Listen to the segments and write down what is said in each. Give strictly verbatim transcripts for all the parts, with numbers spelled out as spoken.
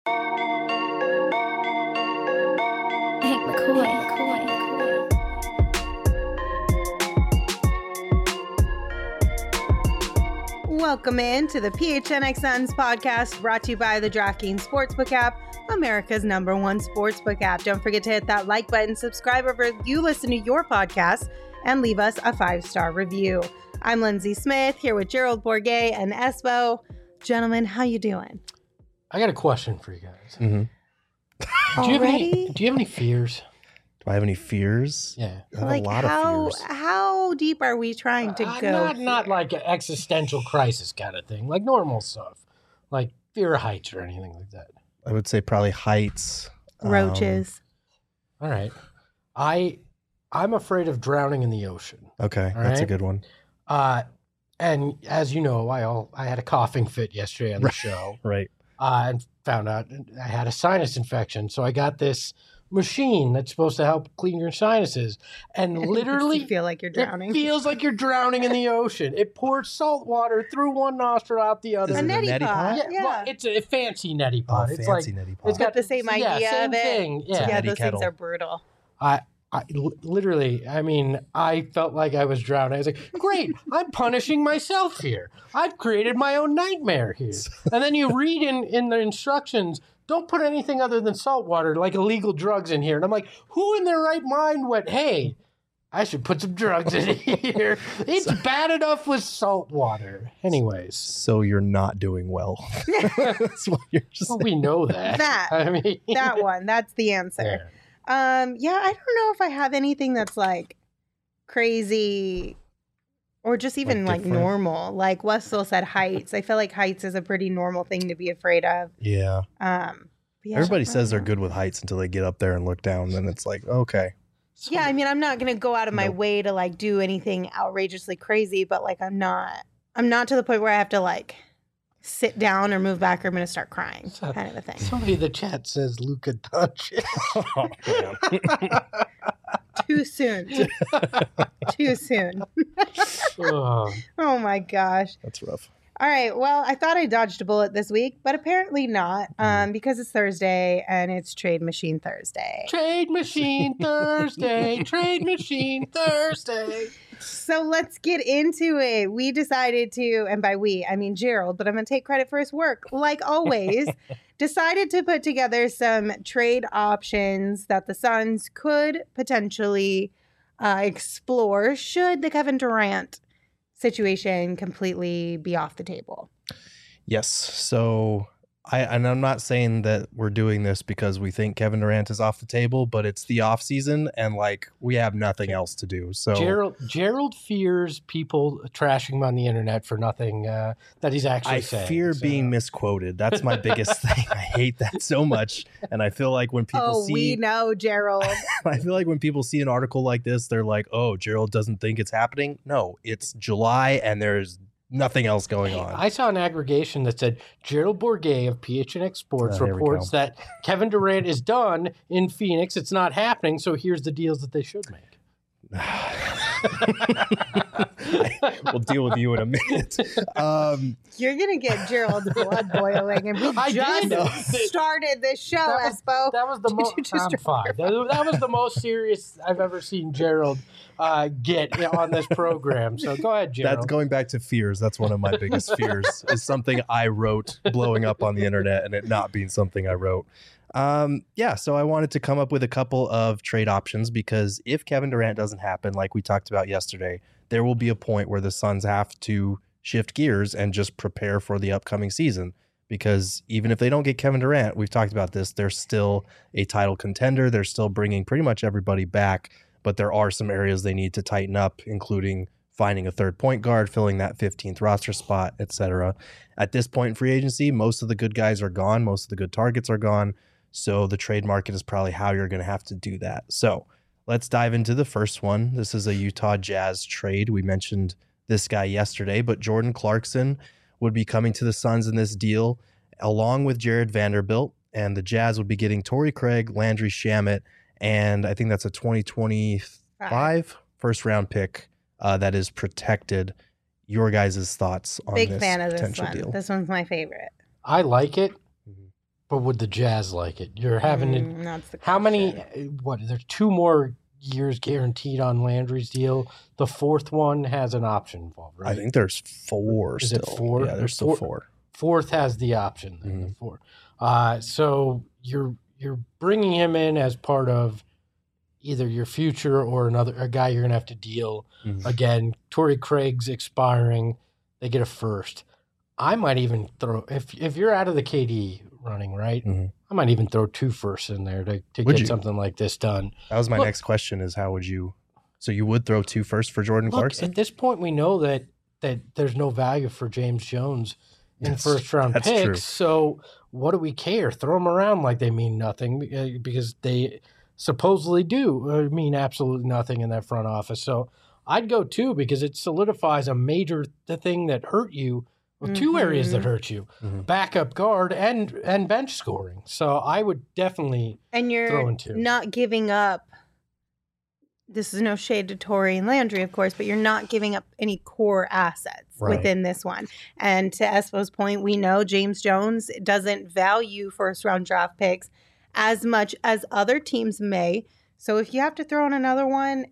Hank McCoy. Welcome in to the P H N X Suns podcast, brought to you by the DraftKings Sportsbook app, America's number one sportsbook app. Don't forget to hit that like button, subscribe wherever you listen to your podcast, and leave us a five-star review. I'm Lindsay Smith, here with Gerald Bourguet and Espo. Gentlemen, how you doing? I got a question for you guys. Mm-hmm. Do you have Already? any? Do you have any fears? Do I have any fears? Yeah. I have Like a lot how of fears. how deep are we trying to Uh, go? not not here? like an existential crisis kind of thing, like normal stuff, like fear of heights or anything like that. I would say probably heights. um, roaches. All right. I I'm afraid of drowning in the ocean. okay, All that's a right. good one. Uh, and as you know, I all I had a coughing fit yesterday on the Right. show, Right. uh, and found out I had a sinus infection. So I got this machine that's supposed to help clean your sinuses, and literally you feel like you're drowning. It feels like you're drowning in the ocean. It pours salt water through one nostril, out the other. Is a it a neti neti pot. pot? yeah, Yeah. well, it's a fancy neti Oh, pot. it's fancy like neti pot. it's got the same yeah, idea same of it. thing. Yeah, Yeah, neti those kettle. things are brutal. I, I li- literally, I mean, I felt like I was drowning. I was like, great, I'm punishing myself here. I've created my own nightmare here. And then you read in, in the instructions, don't put anything other than salt water, like illegal drugs in here. And I'm like, who in their right mind went, hey, I should put some drugs in here. It's bad enough with salt water. Anyways, So you're not doing well. That's what you're just well, saying. we know that. That. I mean, That one, that's the answer. yeah. Um, yeah, I don't know if I have anything that's like crazy or just even Like like, different? normal. Like Wessel said, heights. I feel like heights is a pretty normal thing to be afraid of. Yeah. Um, yeah, Everybody I says they're don't good know. with heights until they get up there and look down. Then it's like, okay. Yeah, I mean, I'm not gonna go out of my Nope. way to like do anything outrageously crazy, but like I'm not, I'm not to the point where I have to like sit down or move back or I'm gonna start crying, So- kind of a thing. Somebody in the chat says Luka Doncic. Oh, man. Too soon. Too soon. Oh. Oh my gosh. That's rough. All right. Well, I thought I dodged a bullet this week, but apparently not, um, because it's Thursday and it's Trade Machine Thursday. Trade Machine Thursday. Trade Machine Thursday. So let's get into it. We decided to, and by we, I mean Gerald, but I'm going to take credit for his work. Like always, decided to put together some trade options that the Suns could potentially uh, explore should the Kevin Durant situation completely be off the table. Yes. So I and I'm not saying that we're doing this because we think Kevin Durant is off the table, but it's the off season and like we have nothing else to do. So Gerald Gerald fears people trashing him on the internet for nothing uh, that he's actually I saying. fear So- being misquoted. That's my biggest thing. I hate that so much. And I feel like when people oh, see we know, Gerald. I feel like when people see an article like this, they're like, "Oh, Gerald doesn't think it's happening." No, it's July and there's nothing else going on. I saw an aggregation that said Gerald Bourguet of P H N X Sports Oh, here we reports go. that Kevin Durant is done in Phoenix. It's not happening, so here's the deals that they should make. We'll deal with you in a minute. Um, You're gonna get Gerald's blood boiling, and we I just did. started this show, That was- Espo. That was the Did most. you just I'm drop fine. That, that was the most serious I've ever seen Gerald uh, get on this program. So go ahead, Gerald. That's going back to fears. That's one of my biggest fears is something I wrote blowing up on the internet and it not being something I wrote. Um, yeah, so I wanted to come up with a couple of trade options because if Kevin Durant doesn't happen, like we talked about yesterday, there will be a point where the Suns have to shift gears and just prepare for the upcoming season. Because even if they don't get Kevin Durant, we've talked about this, they're still a title contender. They're still bringing pretty much everybody back, but there are some areas they need to tighten up, including finding a third point guard, filling that fifteenth roster spot, et cetera. At this point in free agency, most of the good guys are gone. Most of the good targets are gone. So the trade market is probably how you're going to have to do that. So let's dive into the first one. This is a Utah Jazz trade. We mentioned this guy yesterday, but Jordan Clarkson would be coming to the Suns in this deal along with Jared Vanderbilt, and the Jazz would be getting Torrey Craig, Landry Shamet, and I think that's a twenty twenty-five first round pick uh, that is protected. Your guys' thoughts on Big this fan of this potential one. deal? This one's my favorite. I like it. Mhm. but would the Jazz like it? You're having Mm, to, that's the how many? question. What? There's two more years guaranteed on Landry's deal. The fourth one has an option involved, right? I think there's four Is still. it four? Yeah, there's still Four- four. Fourth has the option. Then, Mhm. the four. Uh, so you're you're bringing him in as part of either your future or another a guy you're gonna have to deal. Mhm. Again, Torrey Craig's expiring. They get a first. I might even throw if if you're out of the K D running, right? Mhm. I might even throw two firsts in there to, to Would get you? something like this done. That was my Look- next question is how would you so you would throw two first for Jordan Look, Clarkson? at this point, we know that that there's no value for James Jones in That's- first round that's picks. true. So what do we care? Throw them around like they mean nothing uh, because they supposedly do uh, mean absolutely nothing in that front office. So I'd go two because it solidifies a major the thing that hurt you. Well, two areas that Mhm. hurt you: Mhm. backup guard and and bench scoring. So I would definitely And you're Throw in two. not giving up. This is no shade to Torrey and Landry, of course, but you're not giving up any core assets Right. within this one. And to Espo's point, we know James Jones doesn't value first round draft picks as much as other teams may. So if you have to throw in another one,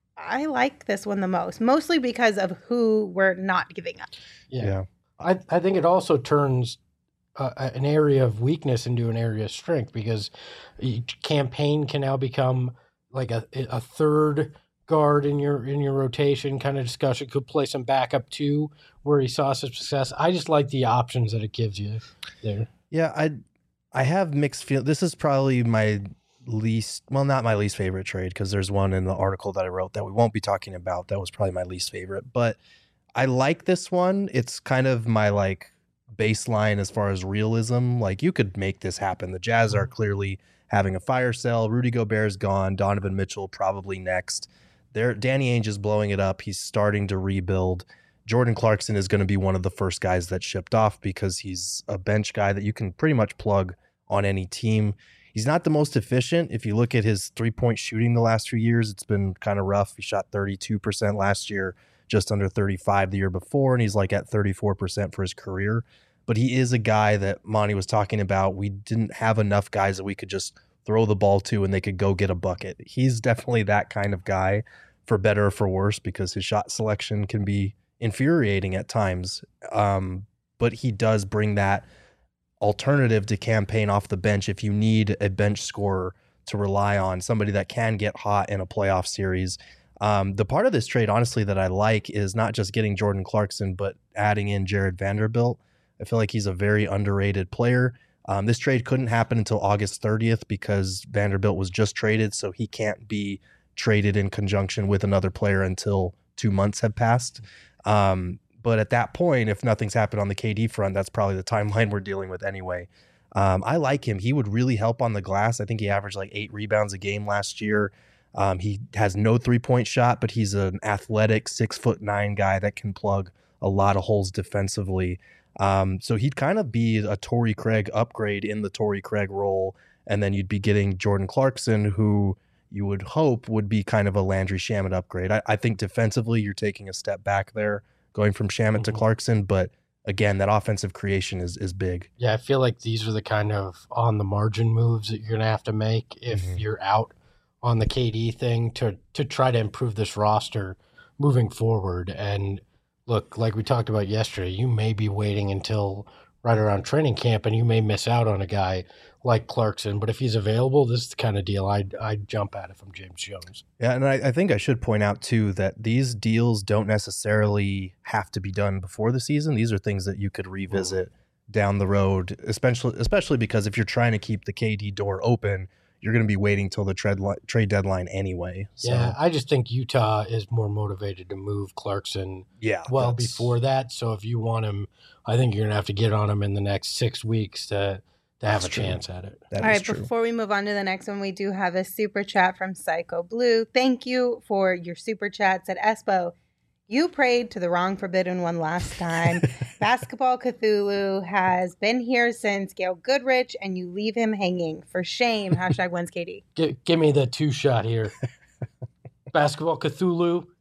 I like this one the most, mostly because of who we're not giving up. yeah. Yeah. I, I think it also turns uh, an area of weakness into an area of strength because each campaign can now become like a, a third guard in your in your rotation kind of discussion. Could play some backup too, where he saw some success. I just like the options that it gives you there. Yeah, I I have mixed feel. This is probably my least, well, not my least favorite trade because there's one in the article that I wrote that we won't be talking about. That was probably my least favorite, but I like this one. It's kind of my like baseline as far as realism. Like you could make this happen. The Jazz are clearly having a fire sale. Rudy Gobert's gone. Donovan Mitchell probably next. There, Danny Ainge is blowing it up. He's starting to rebuild. Jordan Clarkson is going to be one of the first guys that shipped off because he's a bench guy that you can pretty much plug on any team. He's not the most efficient. If you look at his three-point shooting the last few years, it's been kind of rough. He shot thirty-two percent last year, just under thirty-five the year before, and he's like at thirty-four percent for his career. But he is a guy that Monty was talking about. We didn't have enough guys that we could just throw the ball to and they could go get a bucket. He's definitely that kind of guy, for better or for worse, because his shot selection can be infuriating at times. Um, but he does bring that alternative to campaign off the bench if you need a bench scorer to rely on, somebody that can get hot in a playoff series. Um, the part of this trade, honestly, that I like is not just getting Jordan Clarkson, but adding in Jared Vanderbilt. I feel like he's a very underrated player. Um, this trade couldn't happen until August thirtieth because Vanderbilt was just traded, so he can't be traded in conjunction with another player until two months have passed. Um, but at that point, if nothing's happened on the K D front, that's probably the timeline we're dealing with anyway. Um, I like him. He would really help on the glass. I think he averaged like eight rebounds a game last year. Um, he has no three-point shot, but he's an athletic six foot nine guy that can plug a lot of holes defensively. Um, so he'd kind of be a Torrey Craig upgrade in the Torrey Craig role. And then you'd be getting Jordan Clarkson, who you would hope would be kind of a Landry Shamet upgrade. I, I think defensively, you're taking a step back there, going from Shamet to Mhm. Clarkson. But again, that offensive creation is is big. Yeah, I feel like these are the kind of on the margin moves that you're gonna have to make if Mhm. you're out on the K D thing to to try to improve this roster moving forward. And look, like we talked about yesterday, you may be waiting until right around training camp and you may miss out on a guy like Clarkson. But if he's available, this is the kind of deal I'd, I'd jump at it from James Jones. Yeah, and I, I think I should point out too that these deals don't necessarily have to be done before the season. These are things that you could revisit down the road, especially especially because if you're trying to keep the K D door open, you're going to be waiting till the trade li- trade deadline anyway. So, Yeah, I just think Utah is more motivated to move Clarkson yeah, well that's- before that. So if you want him, I think you're going to have to get on him in the next six weeks to, to have That's a true. chance at it. that All is right, true. before we move on to the next one, we do have a super chat from Psycho Blue. Thank you for your super chats at Espo. You prayed to the wrong forbidden one last time. Basketball Cthulhu has been here since Gail Goodrich, and you leave him hanging. For shame. Hashtag when's K D. G- give me the two shot here. Basketball Cthulhu.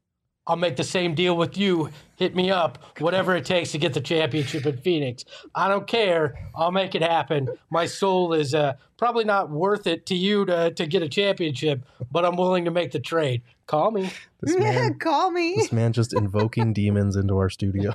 I'll make the same deal with you. Hit me up, whatever it takes to get the championship in Phoenix. I don't care. I'll make it happen. My soul is uh, probably not worth it to you to, to get a championship, but I'm willing to make the trade. Call me. This man, Call me. this man just invoking demons into our studio.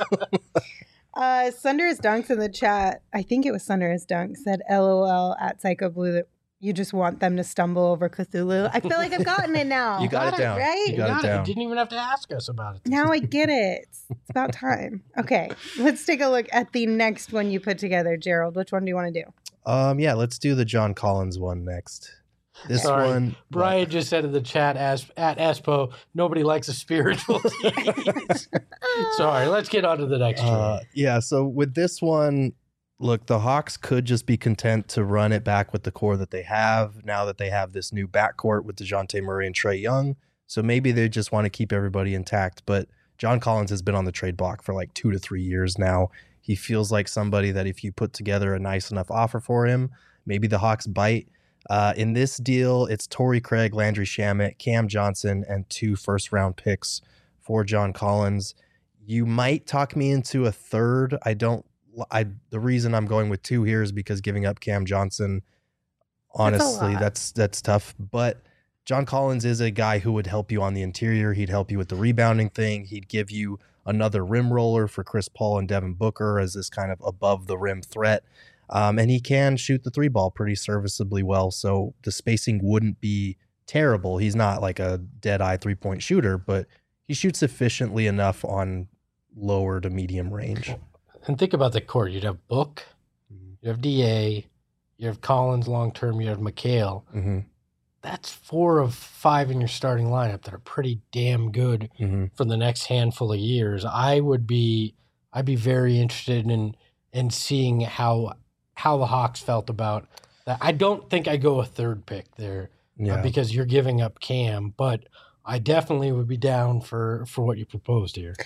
Uh, Sunder's Dunks in the chat, I think it was Sunder's Dunks, said LOL at Psycho Blue that you just want them to stumble over Cthulhu. I feel like I've gotten it now. You got it down. Right? You got it down. You didn't even have to ask us about it. Now I get it. It's about time. Okay, let's take a look at the next one you put together, Gerald. Which one do you want to do? Um, yeah, let's do the John Collins one next. This Sorry. one, Brian what? just said in the chat as, at Espo, nobody likes a spiritual tease. Sorry, let's get on to the next Uh, trade. yeah, so with this one, look, the Hawks could just be content to run it back with the core that they have now that they have this new backcourt with DeJounte Murray and Trae Young. So maybe they just want to keep everybody intact. But John Collins has been on the trade block for like two to three years now. He feels like somebody that if you put together a nice enough offer for him, maybe the Hawks bite. Uh, in this deal, it's Torrey Craig, Landry Shamet, Cam Johnson, and two first-round picks for John Collins. You might talk me into a third. I don't. I the reason I'm going with two here is because giving up Cam Johnson, honestly, lot. that's that's tough. But John Collins is a guy who would help you on the interior. He'd help you with the rebounding thing. He'd give you another rim roller for Chris Paul and Devin Booker as this kind of above the rim threat. Um, and he can shoot the three ball pretty serviceably well. So the spacing wouldn't be terrible. He's not like a dead eye three point shooter, but he shoots efficiently enough on lower to medium range. And think about the court. You'd have Book, you have D A, you have Collins long term, you have McHale. Mm-hmm. That's four of five in your starting lineup that are pretty damn good Mm-hmm. for the next handful of years. I would be, I'd be very interested in in seeing how how the Hawks felt about that. I don't think I go a third pick there Yeah. uh, because you're giving up Cam, but I definitely would be down for for what you proposed here.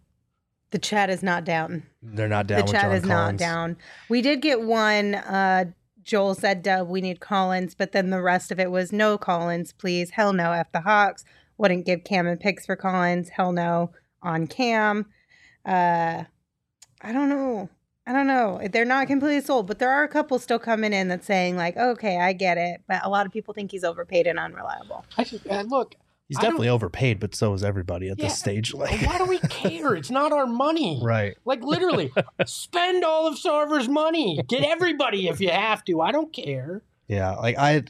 The chat is not down. They're not down The with chat John is not Collins. down. We did get one. Uh, Joel said, Dub, we need Collins, but then the rest of it was no Collins, please. Hell no, F the Hawks. Wouldn't give Cam and picks for Collins. Hell no on Cam. Uh, I don't know. I don't know. They're not completely sold, but there are a couple still coming in that's saying like, okay, I get it. But a lot of people think he's overpaid and unreliable. I just, uh, look, He's I definitely overpaid, but so is everybody at Yeah. this stage. Like, why do we care? It's not our money. right. Like literally, spend all of Sarver's money. Get everybody if you have to. I don't care. Yeah, like I,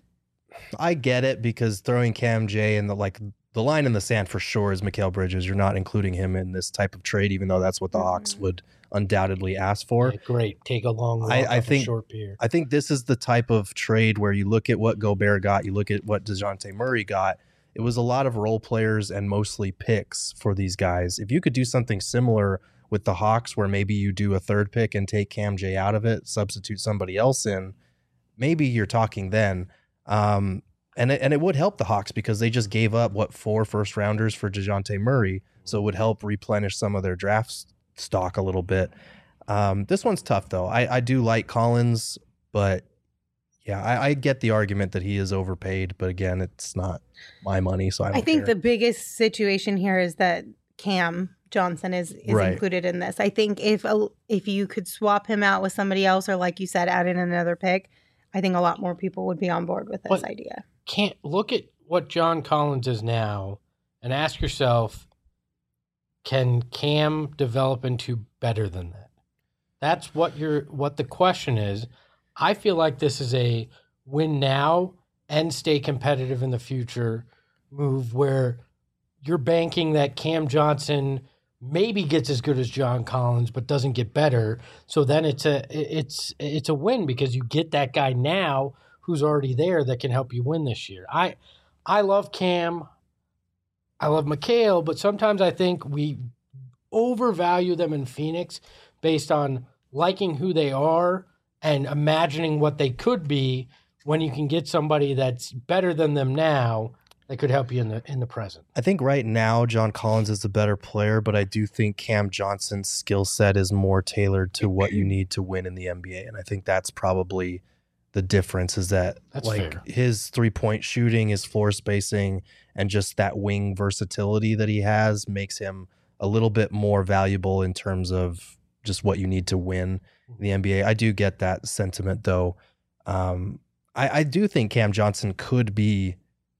I get it because throwing Cam J in the like the line in the sand for sure is Mikal Bridges. You're not including him in this type of trade, even though that's what the Hawks Mhm. would undoubtedly ask for. Yeah, great. Take a long walk I- I off think- a short pier. I think this is the type of trade where you look at what Gobert got, you look at what DeJounte Murray got. It was a lot of role players and mostly picks for these guys. If you could do something similar with the Hawks, where maybe you do a third pick and take Cam J out of it, substitute somebody else in, maybe you're talking then. Um, and it, and it would help the Hawks because they just gave up what four first rounders for DeJounte Murray, so it would help replenish some of their draft s- stock a little bit. Um, this one's tough though. I, I do like Collins, but yeah, I, I get the argument that he is overpaid. But again, it's not my money, so I don't I think care. the biggest situation here is that Cam Johnson is, is Right. included in this. I think if a, if you could swap him out with somebody else, or like you said, add in another pick, I think a lot more people would be on board with this But- idea. Can't look at what John Collins is now and ask yourself, can Cam develop into better than that? That's what you're what the question is. I feel like this is a win now and stay competitive in the future move where you're banking that Cam Johnson maybe gets as good as John Collins but doesn't get better. So then it's a it's it's a win because you get that guy now who's already there that can help you win this year. I I love Cam. I love McHale, but sometimes I think we overvalue them in Phoenix based on liking who they are and imagining what they could be when you can get somebody that's better than them now that could help you in the in the present. I think right now John Collins is the better player, but I do think Cam Johnson's skill set is more tailored to what you need to win in the N B A, and I think that's probably the difference is that That's like fair. his three point shooting, his floor spacing, and just that wing versatility that he has makes him a little bit more valuable in terms of just what you need to win in the N B A. I do get that sentiment though. Um, I, I do think Cam Johnson could be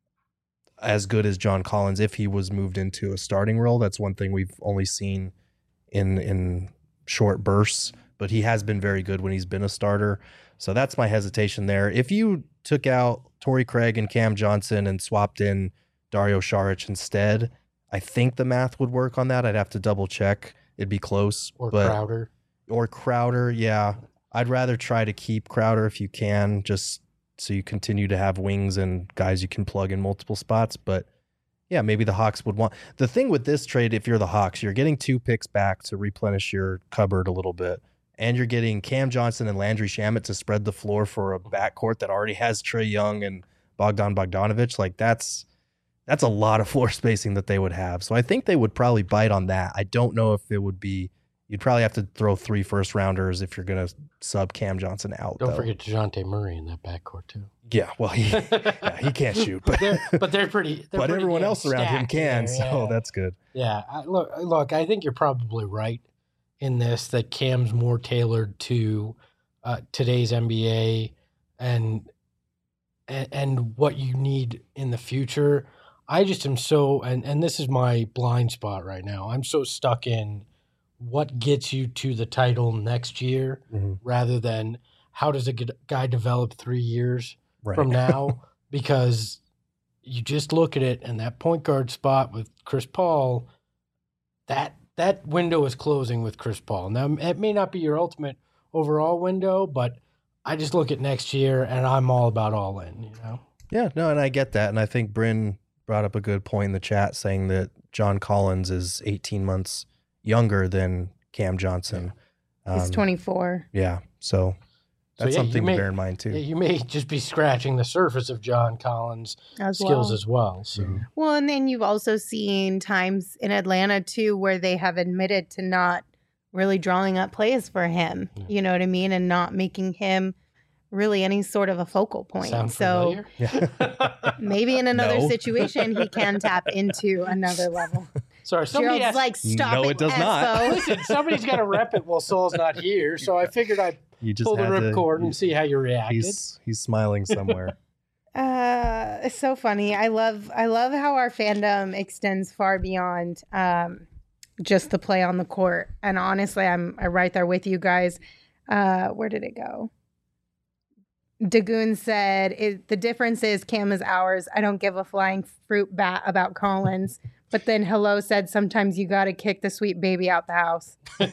as good as John Collins if he was moved into a starting role. That's one thing we've only seen in in short bursts, but he has been very good when he's been a starter. So that's my hesitation there. If you took out Torrey Craig and Cam Johnson and swapped in Dario Saric instead, I think the math would work on that. I'd have to double check. It'd be close. Or but, Crowder. Or Crowder, yeah. I'd rather try to keep Crowder if you can, just so you continue to have wings and guys you can plug in multiple spots. But yeah, maybe the Hawks would want. The thing with this trade, if you're the Hawks, you're getting two picks back to replenish your cupboard a little bit. And you're getting Cam Johnson and Landry Shamet to spread the floor for a backcourt that already has Trae Young and Bogdan Bogdanovic. Like that's that's a lot of floor spacing that they would have. So I think they would probably bite on that. I don't know if it would be. You'd probably have to throw three first rounders if you're going to sub Cam Johnson out. Don't though. forget DeJounte Murray in that backcourt too. Yeah, well, he yeah, he can't shoot, but they're, but they're pretty. They're but pretty everyone damn else around him stacked can, there, so yeah. that's good. Yeah, I, look, look. I think you're probably right in this that Cam's more tailored to uh, today's N B A and, and and what you need in the future. I just am so, and and this is my blind spot right now. I'm so stuck in what gets you to the title next year, Mm-hmm. rather than how does a g- guy develop three years Right. from now, because you just look at it and that point guard spot with Chris Paul, that that window is closing with Chris Paul. Now, it may not be your ultimate overall window, but I just look at next year and I'm all about all in, you know? Yeah, no, and I get that. And I think Bryn brought up a good point in the chat saying that John Collins is eighteen months younger than Cam Johnson. He's Um, twenty-four. Yeah, so that's So, yeah, you something may- to bear in mind too. Yeah, you may just be scratching the surface of John Collins' As skills well. as well. So, Mhm. Well, and then you've also seen times in Atlanta too where they have admitted to not really drawing up plays for him. Yeah. You know what I mean, and not making him really any sort of a focal point. sound so familiar? Yeah. maybe in another No. situation he can tap into another level. Sorry, somebody Gerald's asked, like, stop No, it, it does not. Espo." listen, somebody's got to rep it while Saul's not here. So I figured I'd You just pull the had to- ripcord and see how you reacted. He's he's smiling somewhere. Uh, it's so funny. I love I love how our fandom extends far beyond um, just the play on the court. And honestly, I'm I'm right there with you guys. Uh, where did it go? Dagoon said, it, the difference is Cam is ours. I don't give a flying fruit bat about Collins. But then Hello said, sometimes you got to kick the sweet baby out the house.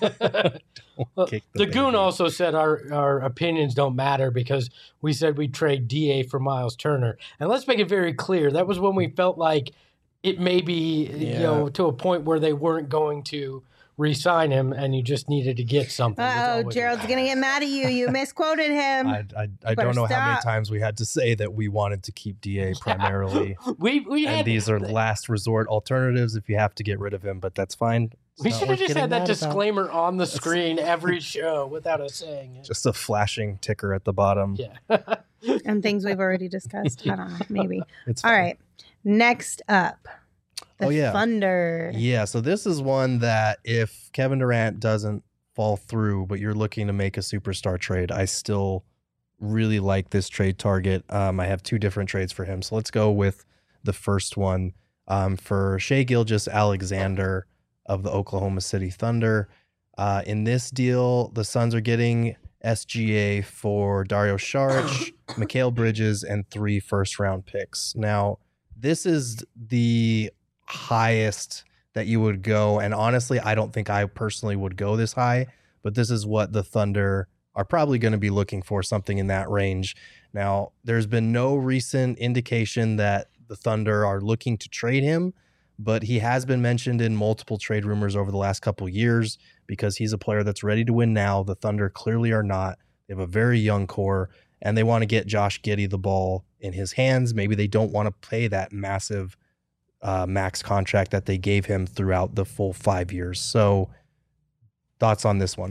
Well, Kick the the Goon baby. also said our, our opinions don't matter because we said we'd trade D A for Miles Turner. And let's make it very clear. That was when we felt like it may be, you Yeah. know, to a point where they weren't going to re-sign him and you just needed to get something. That's Uh-oh, always- Gerald's going to get mad at you. You misquoted him. I I, I Better don't know how many stop. times we had to say that we wanted to keep D A primarily. We, we And had, these are last resort alternatives if you have to get rid of him, but that's fine. It's we not should have worth just getting had that mad about. disclaimer on the screen every show without us saying it. Just a flashing ticker at the bottom. Yeah. And things we've already discussed. I don't know. Maybe. It's All fine. right. Next up, the Oh, yeah. Thunder. Yeah, so this is one that if Kevin Durant doesn't fall through, but you're looking to make a superstar trade, I still really like this trade target. Um, I have two different trades for him. So let's go with the first one um, for Shai Gilgeous-Alexander of the Oklahoma City Thunder. Uh, in this deal, the Suns are getting S G A for Dario Saric, Mikal Bridges, and three first-round picks. Now, this is the highest that you would go, and honestly, I don't think I personally would go this high, but this is what the Thunder are probably going to be looking for, something in that range. Now, there's been no recent indication that the Thunder are looking to trade him, but he has been mentioned in multiple trade rumors over the last couple years because he's a player that's ready to win now. The Thunder clearly are not. They have a very young core, and they want to get Josh Giddey the ball in his hands. Maybe they don't want to pay that massive uh, max contract that they gave him throughout the full five years. So, thoughts on this one?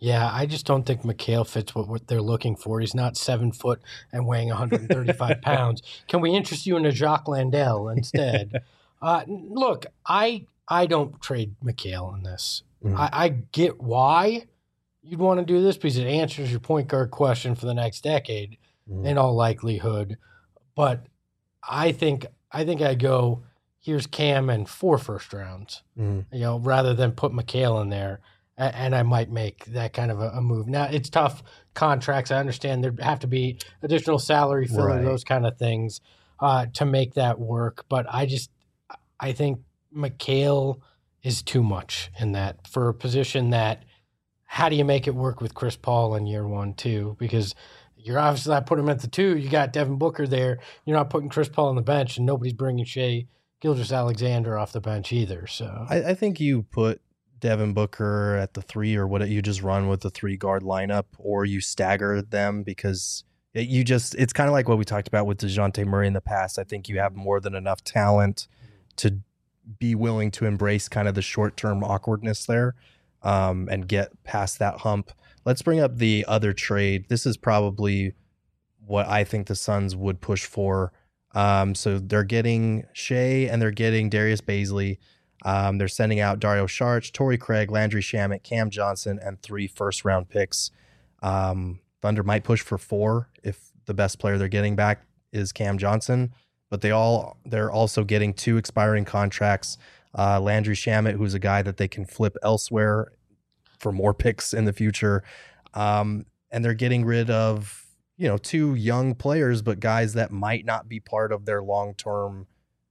Yeah, I just don't think McHale fits what, what they're looking for. He's not seven foot and weighing one hundred thirty-five pounds. Can we interest you in a Jacques Landell instead? uh, look, I I don't trade McHale in this. Mhm. I, I get why you'd want to do this because it answers your point guard question for the next decade Mhm. in all likelihood. But I think I think I go here's Cam and four first rounds. Mhm. You know, rather than put McHale in there. And I might make that kind of a, a move. Now, it's tough contracts. I understand there have to be additional salary filler, Right. those kind of things uh, to make that work. But I just, I think McHale is too much in that for a position that, how do you make it work with Chris Paul in year one, too? Because you're obviously not putting him at the two. You got Devin Booker there. You're not putting Chris Paul on the bench, and nobody's bringing Shea Gilgeous-Alexander off the bench either. So I, I think you put Devin Booker at the three, or what you just run with the three guard lineup, or you stagger them because it, you just it's kind of like what we talked about with DeJounte Murray in the past. I think you have more than enough talent to be willing to embrace kind of the short term awkwardness there um, and get past that hump. Let's bring up the other trade. This is probably what I think the Suns would push for. Um, so they're getting Shea and they're getting Darius Bazley. Um, they're sending out Dario Saric, Torrey Craig, Landry Shamet, Cam Johnson, and three first-round picks. Um, Thunder might push for four if the best player they're getting back is Cam Johnson, but they all they're also getting two expiring contracts. Uh, Landry Shamet, who's a guy that they can flip elsewhere for more picks in the future, um, and they're getting rid of you know two young players, but guys that might not be part of their long-term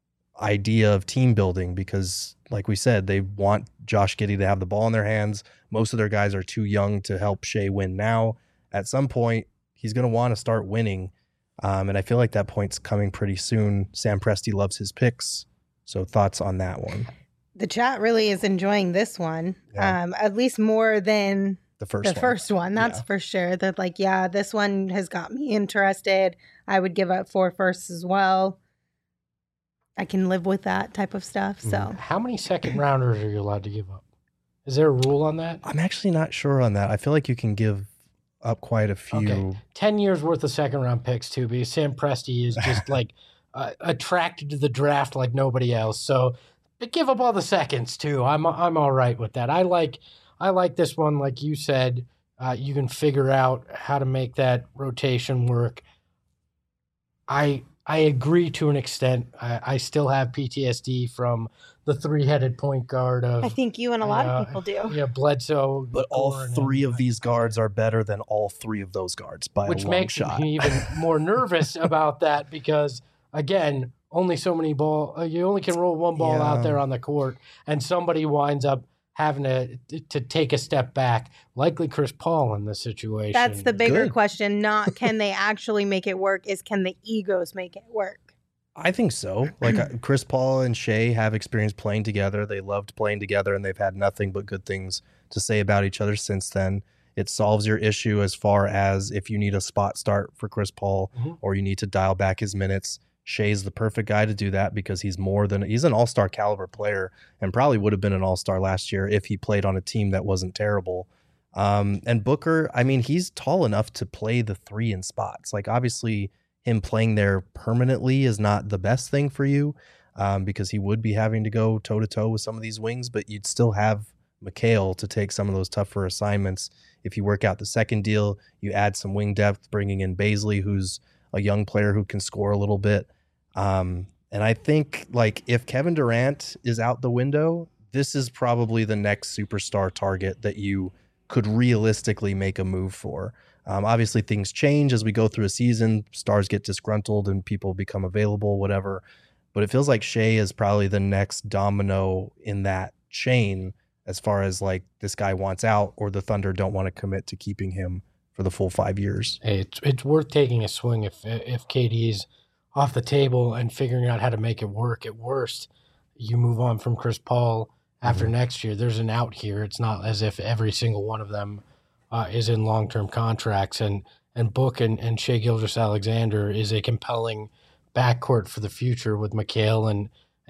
idea of team building because like we said, they want Josh Giddey to have the ball in their hands. Most of their guys are too young to help Shea win now. At some point, he's going to want to start winning. Um, and I feel like that point's coming pretty soon. Sam Presti loves his picks. So thoughts on that one? The chat really is enjoying this one, Yeah. um, at least more than The first the one. first one. That's Yeah. for sure. That like, yeah, this one has got me interested. I would give up four firsts as well. I can live with that type of stuff. So how many second rounders are you allowed to give up? Is there a rule on that? I'm actually not sure on that. I feel like you can give up quite a few. Okay. ten years worth of second round picks too, because Sam Presti is just like uh, attracted to the draft like nobody else. So but give up all the seconds too. I'm I'm all right with that. I like I like this one. Like you said, uh, you can figure out how to make that rotation work. I I agree to an extent. I, I still have P T S D from the three-headed point guard of I think you and a lot uh, of people do. yeah Bledsoe, But all Gordon, three and- of these guards are better than all three of those guards by which a long makes shot. me even more nervous about that because again, only so many ball uh, you only can roll one ball Yeah. out there on the court, and somebody winds up having to to take a step back, likely Chris Paul in this situation. That's the bigger Good. question. Not can they actually make it work, is can the egos make it work? I think so. Like uh, Chris Paul and Shea have experience playing together. They loved playing together, and they've had nothing but good things to say about each other since then. It solves your issue as far as if you need a spot start for Chris Paul Mhm. or you need to dial back his minutes. Shea's the perfect guy to do that because he's more than he's an all-star caliber player and probably would have been an all-star last year if he played on a team that wasn't terrible. Um, and Booker, I mean, he's tall enough to play the three in spots. Like obviously him playing there permanently is not the best thing for you um, because he would be having to go toe to toe with some of these wings, but you'd still have McHale to take some of those tougher assignments. If you work out the second deal, you add some wing depth, bringing in Bazley, who's a young player who can score a little bit. Um, and I think like if Kevin Durant is out the window, this is probably the next superstar target that you could realistically make a move for. Um, obviously things change as we go through a season, stars get disgruntled and people become available, whatever. But it feels like Shea is probably the next domino in that chain as far as like this guy wants out or the Thunder don't want to commit to keeping him for the full five years. Hey, it's it's worth taking a swing if if K D's off the table and figuring out how to make it work. At worst, you move on from Chris Paul after Mhm. next year. There's an out here. It's not as if every single one of them uh, is in long-term contracts. And and Book and, and Shea Gilgeous-Alexander is a compelling backcourt for the future with McHale and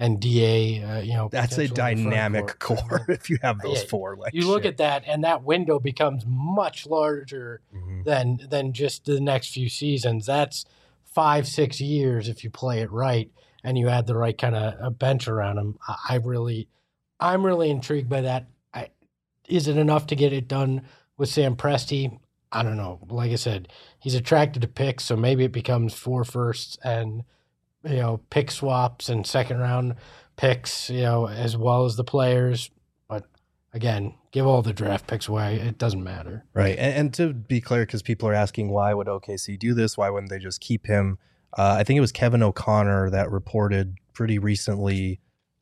and D A. Uh, you know, That's a potentially in the front dynamic court. core if you have those Yeah, four. Like You look shit. at that, and that window becomes much larger Mhm. than than just the next few seasons. That's five, six years if you play it right, and you add the right kind of bench around them. I, I really, I'm really intrigued by that. I, is it enough to get it done with Sam Presti? I don't know. Like I said, he's attracted to picks, so maybe it becomes four firsts and you know pick swaps and second round picks, you know, as well as the players. But again, give all the draft picks away. It doesn't matter. Right. And, and to be clear, because people are asking, why would O K C do this? Why wouldn't they just keep him? Uh, I think it was Kevin O'Connor that reported pretty recently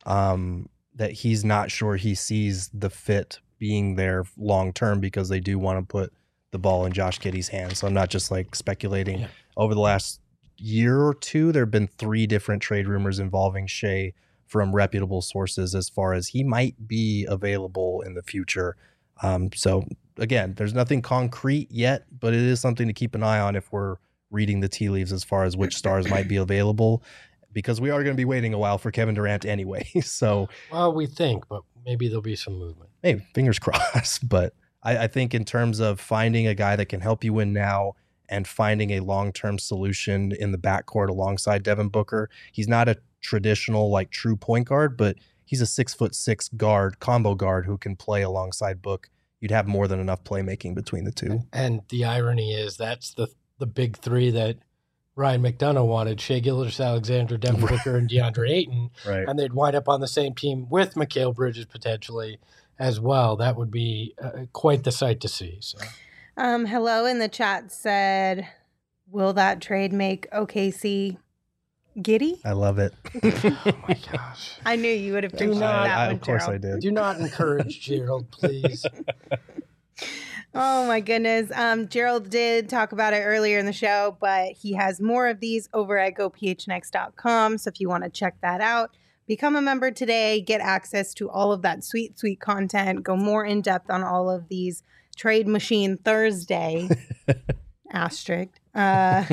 um, that he's not sure he sees the fit being there long term because they do want to put the ball in Josh Giddey's hands. So I'm not just like speculating. Yeah. Over the last year or two, there have been three different trade rumors involving Shea from reputable sources as far as he might be available in the future. Um, so again, there's nothing concrete yet, but it is something to keep an eye on if we're reading the tea leaves as far as which stars might be available, because we are going to be waiting a while for Kevin Durant anyway. So Well, we think, but maybe there'll be some movement. hey, fingers crossed. But I, I think in terms of finding a guy that can help you win now and finding a long-term solution in the backcourt alongside Devin Booker, he's not a traditional like true point guard, but he's a six foot six guard, combo guard who can play alongside Book. You'd have more than enough playmaking between the two. And the irony is that's the the big three that Ryan McDonough wanted: Shea Gilgeous-Alexander, Devin Booker, and DeAndre Ayton. Right. And they'd wind up on the same team with Mikal Bridges potentially as well. That would be uh, quite the sight to see. So. Um, hello in the chat said, will that trade make O K C giddy? I love it. Oh my gosh. I knew you would have Do appreciated not- that I, one, of course Gerald. I did. Do not encourage Gerald, please. Oh my goodness. Um, Gerald did talk about it earlier in the show, but he has more of these over at go p h n x dot com. So if you want to check that out, become a member today, get access to all of that sweet, sweet content, go more in depth on all of these Trade Machine Thursday asterisk uh,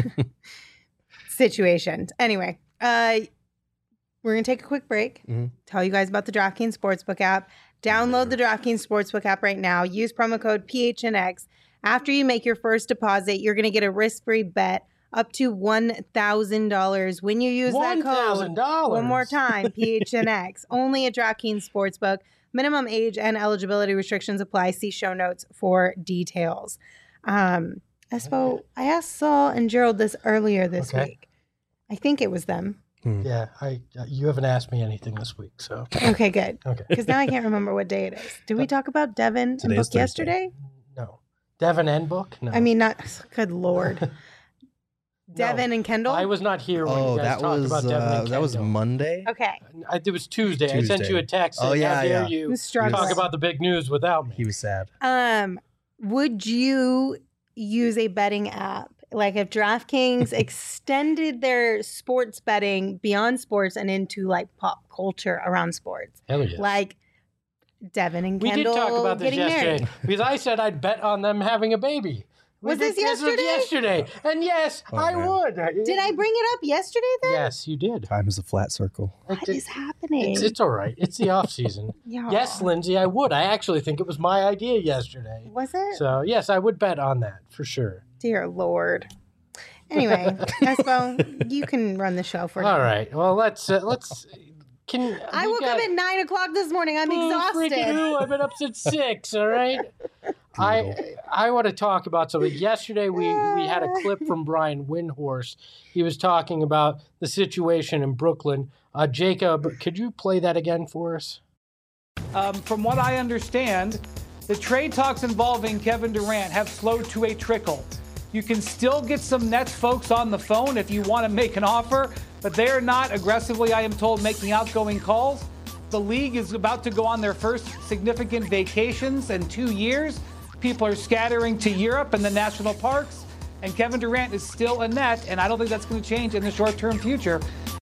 situations. Anyway, uh, we're going to take a quick break, Mm-hmm. tell you guys about the DraftKings Sportsbook app. Download the DraftKings Sportsbook app right now. Use promo code P H N X. After you make your first deposit, you're going to get a risk-free bet up to one thousand dollars when you use that one thousand code. dollars One more time, P H N X. Only at DraftKings Sportsbook. Minimum age and eligibility restrictions apply. See show notes for details. Um, Espo, I asked Saul and Gerald this earlier this Okay. week. I think it was them. Yeah, I. Uh, you haven't asked me anything this week, so Okay, good. okay. Because now I can't remember what day it is. Did we talk about Devin and Today's Book Thursday. yesterday? No, Devin and Book. No, I mean, not. Good Lord. Devin and Kendall? I was not here when Oh, you guys that talked was about Devin uh, and that was Kendall. Monday. Okay. I, it was Tuesday. I sent Tuesday. you a text. Oh, saying, yeah, how dare yeah. you Who's struggling? talk about the big news without me? He was sad. Um, would you use a betting app? Like if DraftKings extended their sports betting beyond sports and into like pop culture around sports, Hell yeah. like Devin and we did Kendall talk about this getting yesterday married. because I said I'd bet on them having a baby. We Was did- this yesterday? yesterday. And yes, Oh, I man. would. Did I bring it up yesterday then? Yes, you did. Time is a flat circle. What It- is happening? It's, it's all right. It's the off season. Yeah. Yes, Lindsay, I would. I actually think it was my idea yesterday. Was it? So yes, I would bet on that for sure. Dear Lord. Anyway, Espo, you can run the show for All now. right. Well, let's uh, let's. Can I we woke got- up at nine o'clock this morning. I'm Oh, freaking exhausted. who? I've been up since six. All right. I I want to talk about something. Yesterday we we had a clip from Brian Windhorst. He was talking about the situation in Brooklyn. Uh, Jacob, could you play that again for us? Um, from what I understand, the trade talks involving Kevin Durant have slowed to a trickle. You can still get some Nets folks on the phone if you want to make an offer, but they are not aggressively, I am told, making outgoing calls. The league is about to go on their first significant vacations in two years. People are scattering to Europe and the national parks, and Kevin Durant is still a Net, and I don't think that's going to change in the short-term future.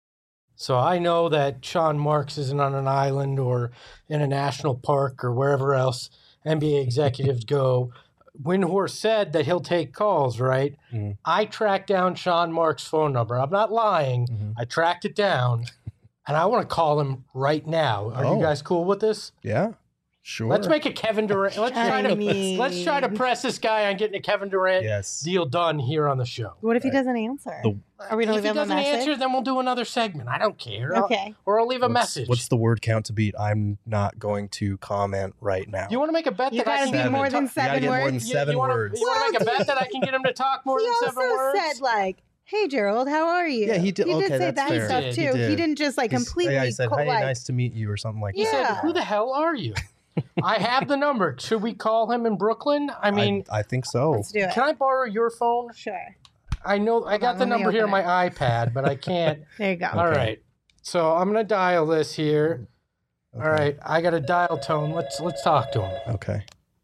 So I know that Sean Marks isn't on an island or in a national park or wherever else N B A executives go. Windhorst said that he'll take calls, right? Mhm. I tracked down Sean Marks' phone number. I'm not lying. Mhm. I tracked it down. and I want to call him right now. Are Oh. you guys cool with this? Yeah, sure. Let's make a Kevin Durant. Let's try I to mean- let's try to press this guy on getting a Kevin Durant Yes. deal done here on the show. What if he doesn't answer? The- Are we going If to he leave him a doesn't message? answer, then we'll do another segment. I don't care. I'll- Okay. or I'll leave a What's- message. What's the word count to beat? I'm not going to comment right now. Do you want to make a bet You that I gotta can be get him more to than talk- You gotta seven get more than words. You- seven you wanna, words. You want to make a Well, bet that I can get him to talk more He than also seven words? said like, "Hey Gerald, how are you?" Yeah, he did- He did okay, say that's that fair. stuff He too. did. He didn't just like He's- completely. Yeah, he said, co- "Hey, like, nice to meet you," or something like He that. said, Yeah. "Who the hell are you?" I have the number. Should we call him in Brooklyn? I mean, I, I think so. Let's do it. can I borrow your phone? Sure. I know I got on, the let me number here on open my iPad, but I can't. There you go. All right. So I'm gonna dial this here. All Okay. right. I got a dial tone. Let's let's talk to him. Okay.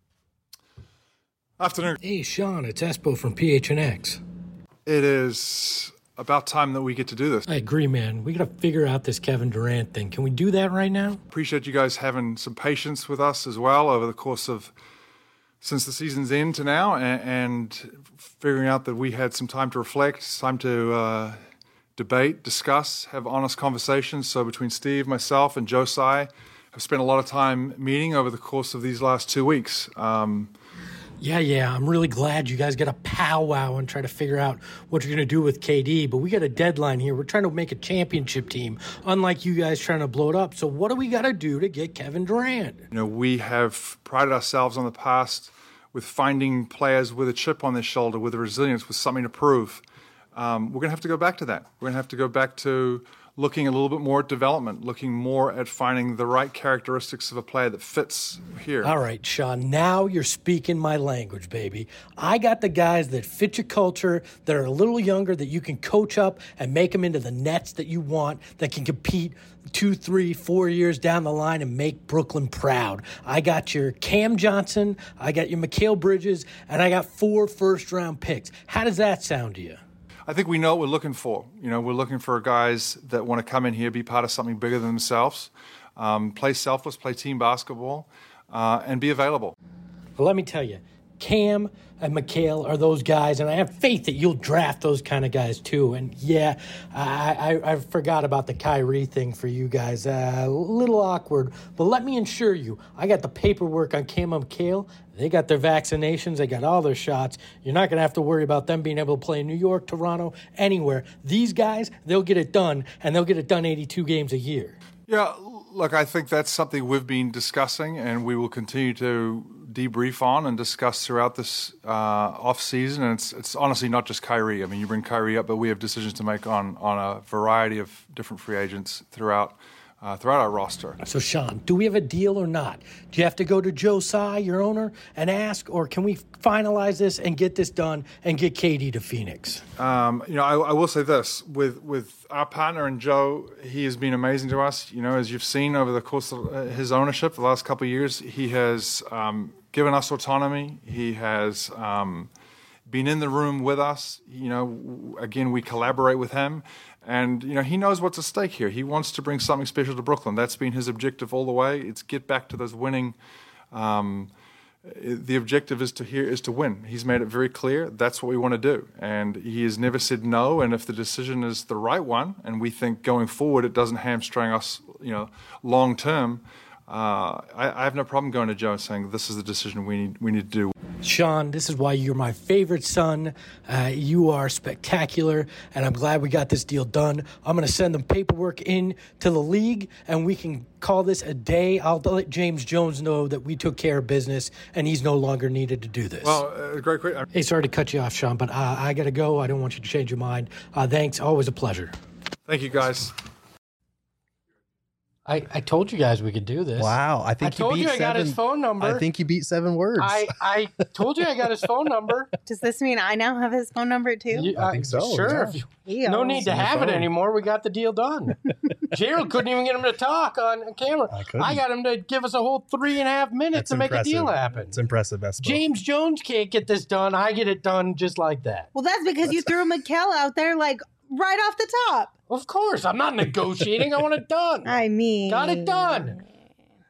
Afternoon. Hey, Sean, it's Espo from P H N X. It is about time that we get to do this. I agree, man. We got to figure out this Kevin Durant thing. Can we do that right now? Appreciate you guys having some patience with us as well over the course of since the season's end to now, and, and figuring out that we had some time to reflect, time to uh, debate, discuss, have honest conversations. So between Steve, myself, and Josiah, have spent a lot of time meeting over the course of these last two weeks. Um, Yeah, yeah. I'm really glad you guys got a powwow and try to figure out what you're going to do with K D. But we got a deadline here. We're trying to make a championship team, unlike you guys trying to blow it up. So what do we got to do to get Kevin Durant? You know, we have prided ourselves on the past with finding players with a chip on their shoulder, with resilience, with something to prove. Um, we're going to have to go back to that. We're going to have to go back to looking a little bit more at development, looking more at finding the right characteristics of a player that fits here. All right, Sean, now you're speaking my language, baby. I got the guys that fit your culture, that are a little younger, that you can coach up and make them into the Nets that you want, that can compete two, three, four years down the line and make Brooklyn proud. I got your Cam Johnson, I got your Mikal Bridges, and I got four first-round picks. How does that sound to you? I think we know what we're looking for. You know, we're looking for guys that want to come in here, be part of something bigger than themselves, um, play selfless, play team basketball, uh, and be available. But let me tell you, Cam and Mikal are those guys, and I have faith that you'll draft those kind of guys too. And yeah, I, I, I forgot about the Kyrie thing for you guys. Uh, a little awkward, but let me assure you, I got the paperwork on Cam and Mikal. They got their vaccinations. They got all their shots. You're not going to have to worry about them being able to play in New York, Toronto, anywhere. These guys, they'll get it done, and they'll get it done eighty-two games a year. Yeah, look, I think that's something we've been discussing, and we will continue to debrief on and discuss throughout this uh, off season. And it's it's honestly not just Kyrie. I mean, you bring Kyrie up, but we have decisions to make on on a variety of different free agents throughout uh, throughout our roster. So, Sean, do we have a deal or not? Do you have to go to Joe Tsai, your owner, and ask, or can we finalize this and get this done and get K D to Phoenix? Um, you know, I, I will say this with with our partner and Joe, he has been amazing to us. You know, as you've seen over the course of uh, his ownership, the last couple of years, he has um, given us autonomy. He has um, been in the room with us. You know, again, we collaborate with him. And, you know, he knows what's at stake here. He wants to bring something special to Brooklyn. That's been his objective all the way. It's get back to those winning. Um, the objective is to here is to win. He's made it very clear. That's what we want to do. And he has never said no. And if the decision is the right one, and we think going forward it doesn't hamstring us, you know, long term, uh, I, I have no problem going to Joe and saying this is the decision we need we need to do. Sean, this is why you're my favorite son. Uh, you are spectacular, and I'm glad we got this deal done. I'm going to send them paperwork in to the league, and we can call this a day. I'll let James Jones know that we took care of business, and he's no longer needed to do this. Well, uh, great, great. Hey, sorry to cut you off, Sean, but uh, I got to go. I don't want you to change your mind. Uh, thanks. Always a pleasure. Thank you, guys. I, I told you guys we could do this. Wow, I think I told you beat you I got seven. his phone number. I think you beat seven words. I, I told you I got his phone number. Does this mean I now have his phone number too? You- I think so, Sure. yeah. If you- He no owns need to on your have it phone. anymore. We got the deal done. Gerald couldn't even get him to talk on camera. I couldn't. I got him to give us a whole three and a half minutes That's to make a deal impressive. happen. It's impressive, Espo. James Jones can't get this done. I get it done just like that. Well, that's because you threw Mikal out there like right off the top. Of course. I'm not negotiating. I want it done. I mean, Got it done.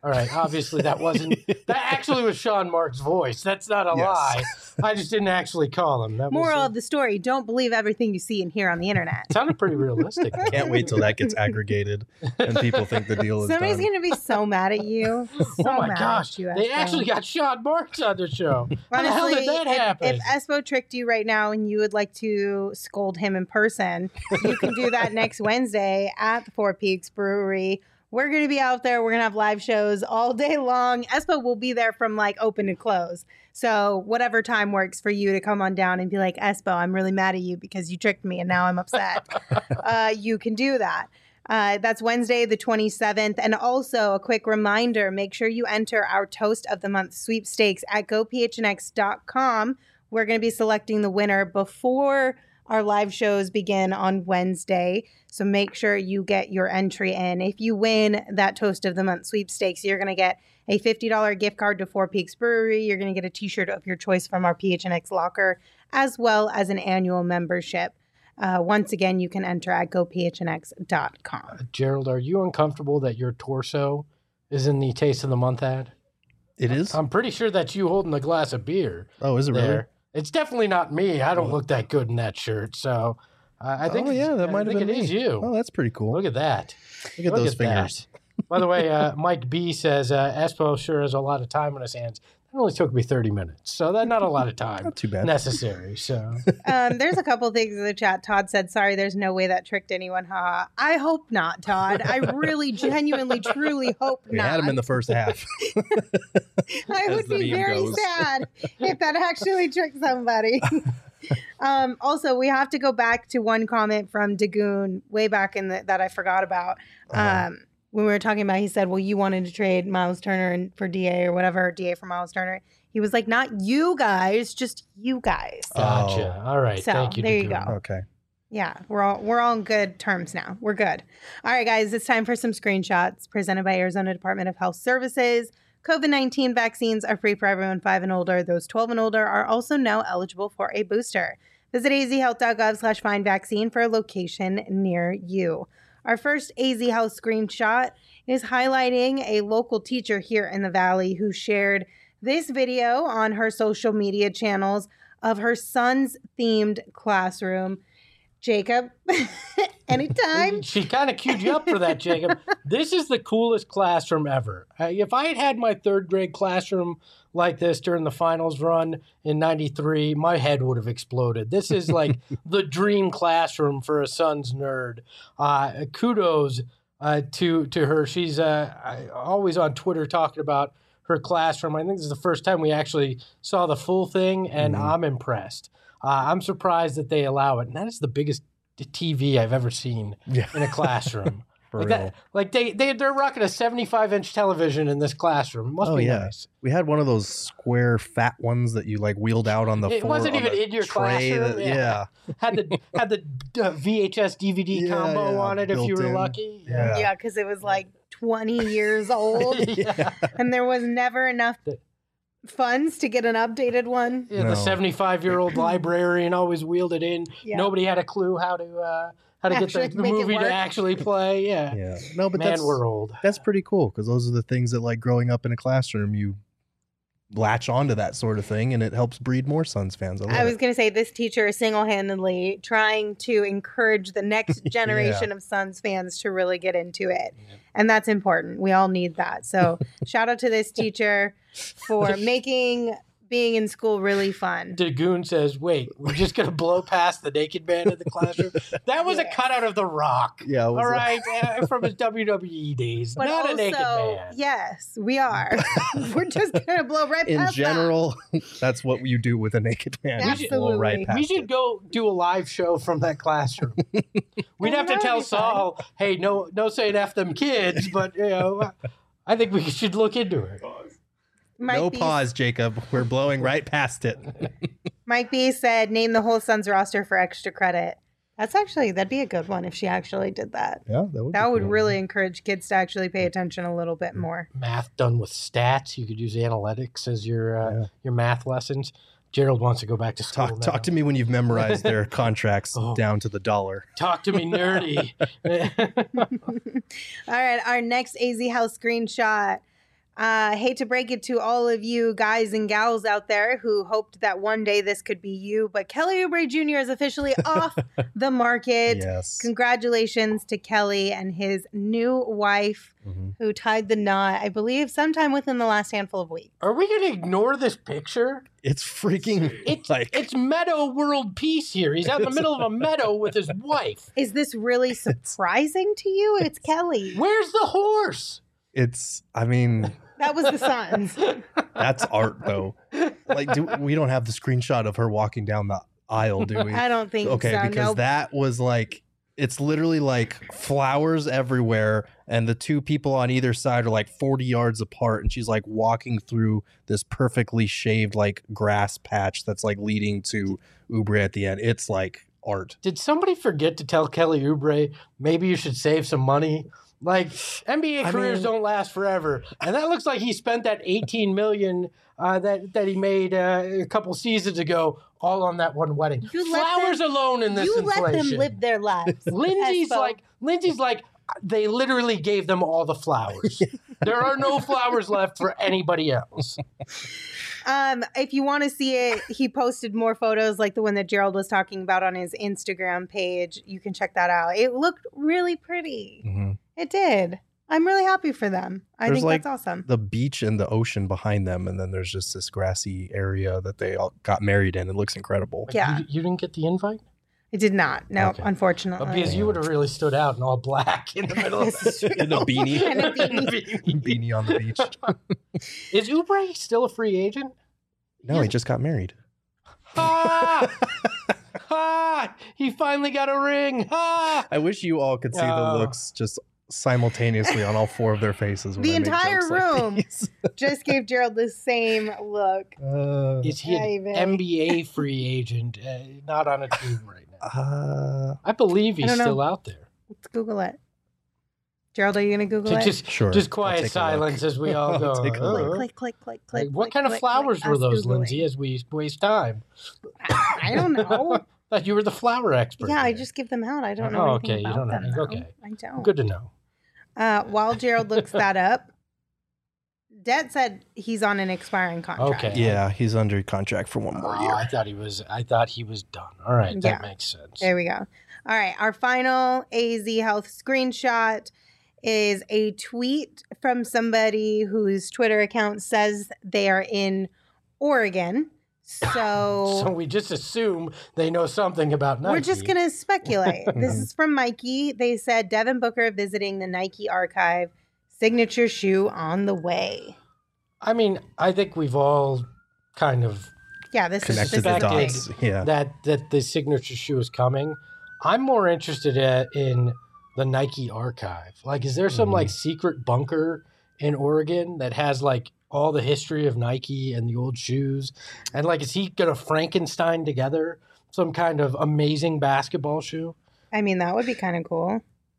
All right, obviously that wasn't, that actually was Sean Mark's voice. That's not a Yes. lie. I just didn't actually call him. That Moral was, of the story: don't believe everything you see and hear on the internet. it sounded pretty realistic. though. Can't wait till that gets aggregated and people think the deal is Somebody's done. going to be so mad at you. So Oh my mad gosh, at you, they Espo. actually got Sean Marks on the show. How the hell Honestly, did that if, happen? if Espo tricked you right now and you would like to scold him in person, you can do that next Wednesday at the Four Peaks Brewery. We're going to be out there. We're going to have live shows all day long. Espo will be there from like open to close. So whatever time works for you to come on down and be like, Espo, I'm really mad at you because you tricked me and now I'm upset. uh, you can do that. Uh, that's Wednesday, the twenty-seventh. And also a quick reminder, make sure you enter our Toast of the Month sweepstakes at go p h n x dot com. We're going to be selecting the winner before our live shows begin on Wednesday. So make sure you get your entry in. If you win that Toast of the Month sweepstakes, you're going to get a fifty dollars gift card to Four Peaks Brewery. You're going to get a t-shirt of your choice from our P H N X locker, as well as an annual membership. Uh, once again, you can enter at go p h n x dot com. Gerald, are you uncomfortable that your torso is in the Taste of the Month ad? It is? I'm pretty sure that's you holding a glass of beer. Oh, is it really? There. It's definitely not me. I don't look that good in that shirt. So uh, I think oh, yeah, that I might have think been it is me. you. Oh, that's pretty cool. Look at that. Look at Look those at fingers. that. By the way, uh, Mike B says uh, Espo sure has a lot of time on his hands. It only took me thirty minutes, so that's not a lot of time. Not too bad. Necessary. So Um, there's a couple things in the chat. Todd said, sorry, there's no way that tricked anyone. Haha. I hope not, Todd. I really, genuinely, truly hope We not. had him in the first half. I as would the be meme very goes. sad if that actually tricked somebody. um, also, we have to go back to one comment from Dagoon way back in the, that I forgot about. Uh-huh. Um, when we were talking about, he said, well, you wanted to trade Miles Turner and for D A or whatever, D A for Miles Turner. He was like, not you guys, just you guys. gotcha. All right. So, Thank you. there you Dagoon. go. Okay. Yeah, we're all we're all on good terms now. We're good. All right, guys, it's time for some screenshots presented by Arizona Department of Health Services. COVID nineteen vaccines are free for everyone five and older. Those twelve and older are also now eligible for a booster. Visit azhealth.gov slash find vaccine for a location near you. Our first A Z Health screenshot is highlighting a local teacher here in the Valley who shared this video on her social media channels of her son's themed classroom. Jacob, anytime. She kind of queued you up for that, Jacob. This is the coolest classroom ever. Uh, if I had had my third grade classroom like this during the finals run in ninety-three, my head would have exploded. This is like the dream classroom for a son's nerd. Uh, kudos uh, to to her. She's uh, always on Twitter talking about her classroom. I think this is the first time we actually saw the full thing, and Mm-hmm. I'm impressed. Uh, I'm surprised that they allow it. And that is the biggest T V I've ever seen Yeah. in a classroom. For like, real. that, like they, they, they're rocking a seventy-five inch television in this classroom. It must Oh, be yeah. nice. We had one of those square fat ones that you like wheeled out on the It floor. wasn't on even the in your tray classroom, that- yeah. yeah. Had the had the uh, V H S D V D Yeah, combo yeah, on it if you built were in. lucky. Yeah. Yeah, because it was like twenty years old yeah. and there was never enough funds to get an updated one. Yeah, No. the seventy-five-year-old librarian always wheeled it in. Yeah. Nobody had a clue how to uh, how to Actually get the, the make it movie work. to actually play. Yeah, Yeah. No, but man, that's we're old. that's pretty cool because those are the things that like growing up in a classroom you latch onto that sort of thing and it helps breed more Suns fans. I, love I was it. going to say this teacher is single-handedly trying to encourage the next generation of Suns fans to really get into it. And that's important. We all need that. So shout out to this teacher for making being in school really fun. Dagoon says, wait, we're just going to blow past the naked man in the classroom? That was a cutout of The Rock. Yeah, it was All a- right, uh, from his W W E days. But Not also, a naked man. yes, we are. We're just going to blow right in past general, that's what you do with a naked man. You Absolutely. blow right We past We should it. go do a live show from that classroom. We'd Oh, have to that would tell be fun. Saul, hey, no, no saying F them kids, but, you know, I think we should look into it. that. Mike No B- pause, Jacob. We're blowing right past it. Mike B said, name the whole Suns roster for extra credit. That's actually, that'd be a good one if she actually did that. Yeah, that would. That be would cool. really encourage kids to actually pay attention a little bit more. Math done with stats. You could use analytics as your uh, Yeah. your math lessons. Gerald wants to go back to school Talk, now. talk to me when you've memorized their contracts Oh. down to the dollar. Talk to me, nerdy. All right, our next A Z House screenshot Uh, hate to break it to all of you guys and gals out there who hoped that one day this could be you, but Kelly Oubre Junior is officially off the market. Yes. Congratulations to Kelly and his new wife Mm-hmm. who tied the knot, I believe, sometime within the last handful of weeks. Are we going to ignore this picture? It's freaking It's like it's Meadow World Peace here. He's out in the middle of a meadow with his wife. Is this really surprising to you? It's Kelly. Where's the horse? it's. I mean, That was the Suns. that's art though. Like, do, we don't have the screenshot of her walking down the aisle, do we? I don't think Okay, so. because Nope. that was like, it's literally like flowers everywhere, and the two people on either side are like forty yards apart, and she's like walking through this perfectly shaved like grass patch that's like leading to Oubre at the end. It's like art. Did somebody forget to tell Kelly Oubre maybe you should save some money? Like N B A I careers mean- don't last forever, and that looks like he spent that eighteen million uh, that that he made uh, a couple seasons ago all on that one wedding. You let Flowers them- alone in this You inflation. let them live their lives. Lindsay's Espo. like Lindsay's like they literally gave them all the flowers. There are no flowers left for anybody else. Um, if you want to see it, he posted more photos like the one that Gerald was talking about on his Instagram page. You can check that out. It looked really pretty. Mhm. It did. I'm really happy for them. I There's think like that's awesome. the beach and the ocean behind them, and then there's just this grassy area that they all got married in. It looks incredible. Yeah. You, you didn't get the invite? It did not. No, Okay. unfortunately. But because you would have really stood out in all black in the middle of This is true. In a beanie. And a beanie. Beanie on the beach. Is Oubre still a free agent? No, he just got married. Ah! ah! He finally got a ring. Ah! I wish you all could see Oh. the looks just simultaneously on all four of their faces. When The I make entire jokes like room. these. Just gave Gerald the same look. Uh, Is he an David. N B A free agent? Uh, not on a team right now. uh, I believe I he's don't know. still out there. Let's Google it. Gerald, are you going to Google it? Just, Sure, just I'll quiet take a silence look. as we all I'll go. take a "Uh, look. click, click, click, like, click. what click, kind of click, flowers click, were us those, Googling. Lindsay, as we waste time? I don't know. Thought you were the flower expert. Yeah, I here. just give them out. I don't know Oh, anything okay, you about don't know. them. though. Okay. I don't. Good to know. Uh, while Gerald looks that up, Det said he's on an expiring contract. Okay. yeah, he's under contract for one more Oh, year. I thought he was. I thought he was done. All right, that Yeah. makes sense. There we go. All right. Our final A Z Health screenshot is a tweet from somebody whose Twitter account says they are in Oregon. So, So we just assume they know something about Nike. we're just going to speculate. This is from Mikey. They said Devin Booker visiting the Nike archive, signature shoe on the way. I mean, I think we've all kind of Yeah, this Connected is the this is a thing. dots. Yeah. that that the signature shoe is coming. I'm more interested at, in the Nike archive. Like, is there some Mhm. like secret bunker in Oregon that has like all the history of Nike and the old shoes? And like, is he gonna Frankenstein together some kind of amazing basketball shoe? I mean, that would be kind of cool.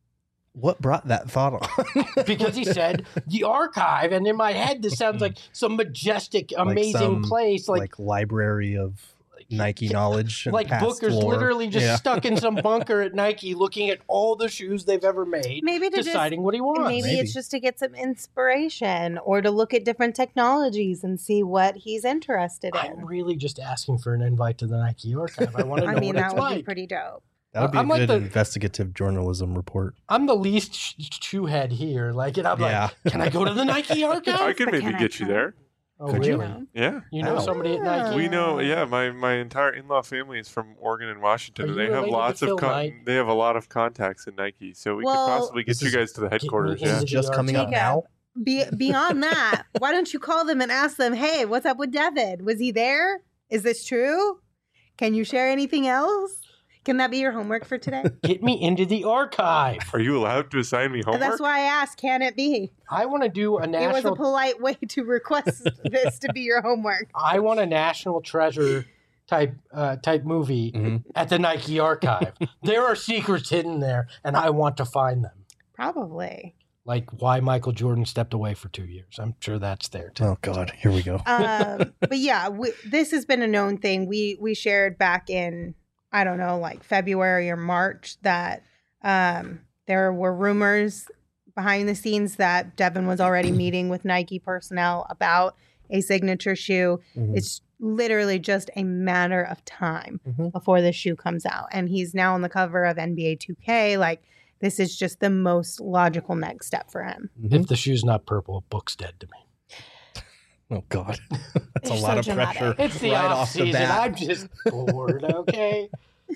What brought that thought on? Because he said the archive, and in my head, this sounds like some majestic, amazing some, place, like like library of Nike knowledge. And like past Booker's lore. literally just Yeah. stuck in some bunker at Nike, looking at all the shoes they've ever made, Maybe to just deciding what he wants. Maybe, Maybe. it's just to get some inspiration or to look at different technologies and see what he's interested I'm in. really just asking for an invite to the Nike archive. I want to know I mean, what that it's would like. be pretty dope. That would be I'm a like good the- investigative journalism report. I'm the least sh- shoe head here. Like, and I'm Yeah. like, can I go to the Nike archive? I could but maybe can I get you try? there. Oh, Could you? really? Yeah. You know Ow. somebody at Nike? We know, yeah. My, my entire in-law family is from Oregon and Washington, Are and you they have related to lots Phil of con- Knight? they have a lot of contacts in Nike, so we Well, could possibly get This you is- guys to the headquarters. me Yeah, into Is it just the coming up archive. now? Be- beyond that, why don't you call them and ask them, hey, what's up with David? Was he there? Is this true? Can you share anything else? Can that be your homework for today? Get me into the archive. are you allowed to assign me homework? That's why I asked, can it be? I want to do a It was a national. polite way to request this to be your homework. I want a national treasure type uh, type movie Mhm. at the Nike archive. There are secrets hidden there, and I want to find them. Probably. Like why Michael Jordan stepped away for two years. I'm sure that's there too. Oh God, here we go. um, but yeah, we, this has been a known thing. We we shared back in I don't know, like February or March that um, there were rumors behind the scenes that Devin was already meeting with Nike personnel about a signature shoe. Mhm. It's literally just a matter of time Mhm. before the shoe comes out. And he's now on the cover of N B A two K. Like, this is just the most logical next step for him. Mhm. If the shoe's not purple, a book's dead to me. Oh God, that's a You're lot so of dramatic. pressure It's the right off off the season. bat. I'm just bored. Okay.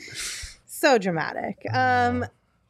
So dramatic. Um,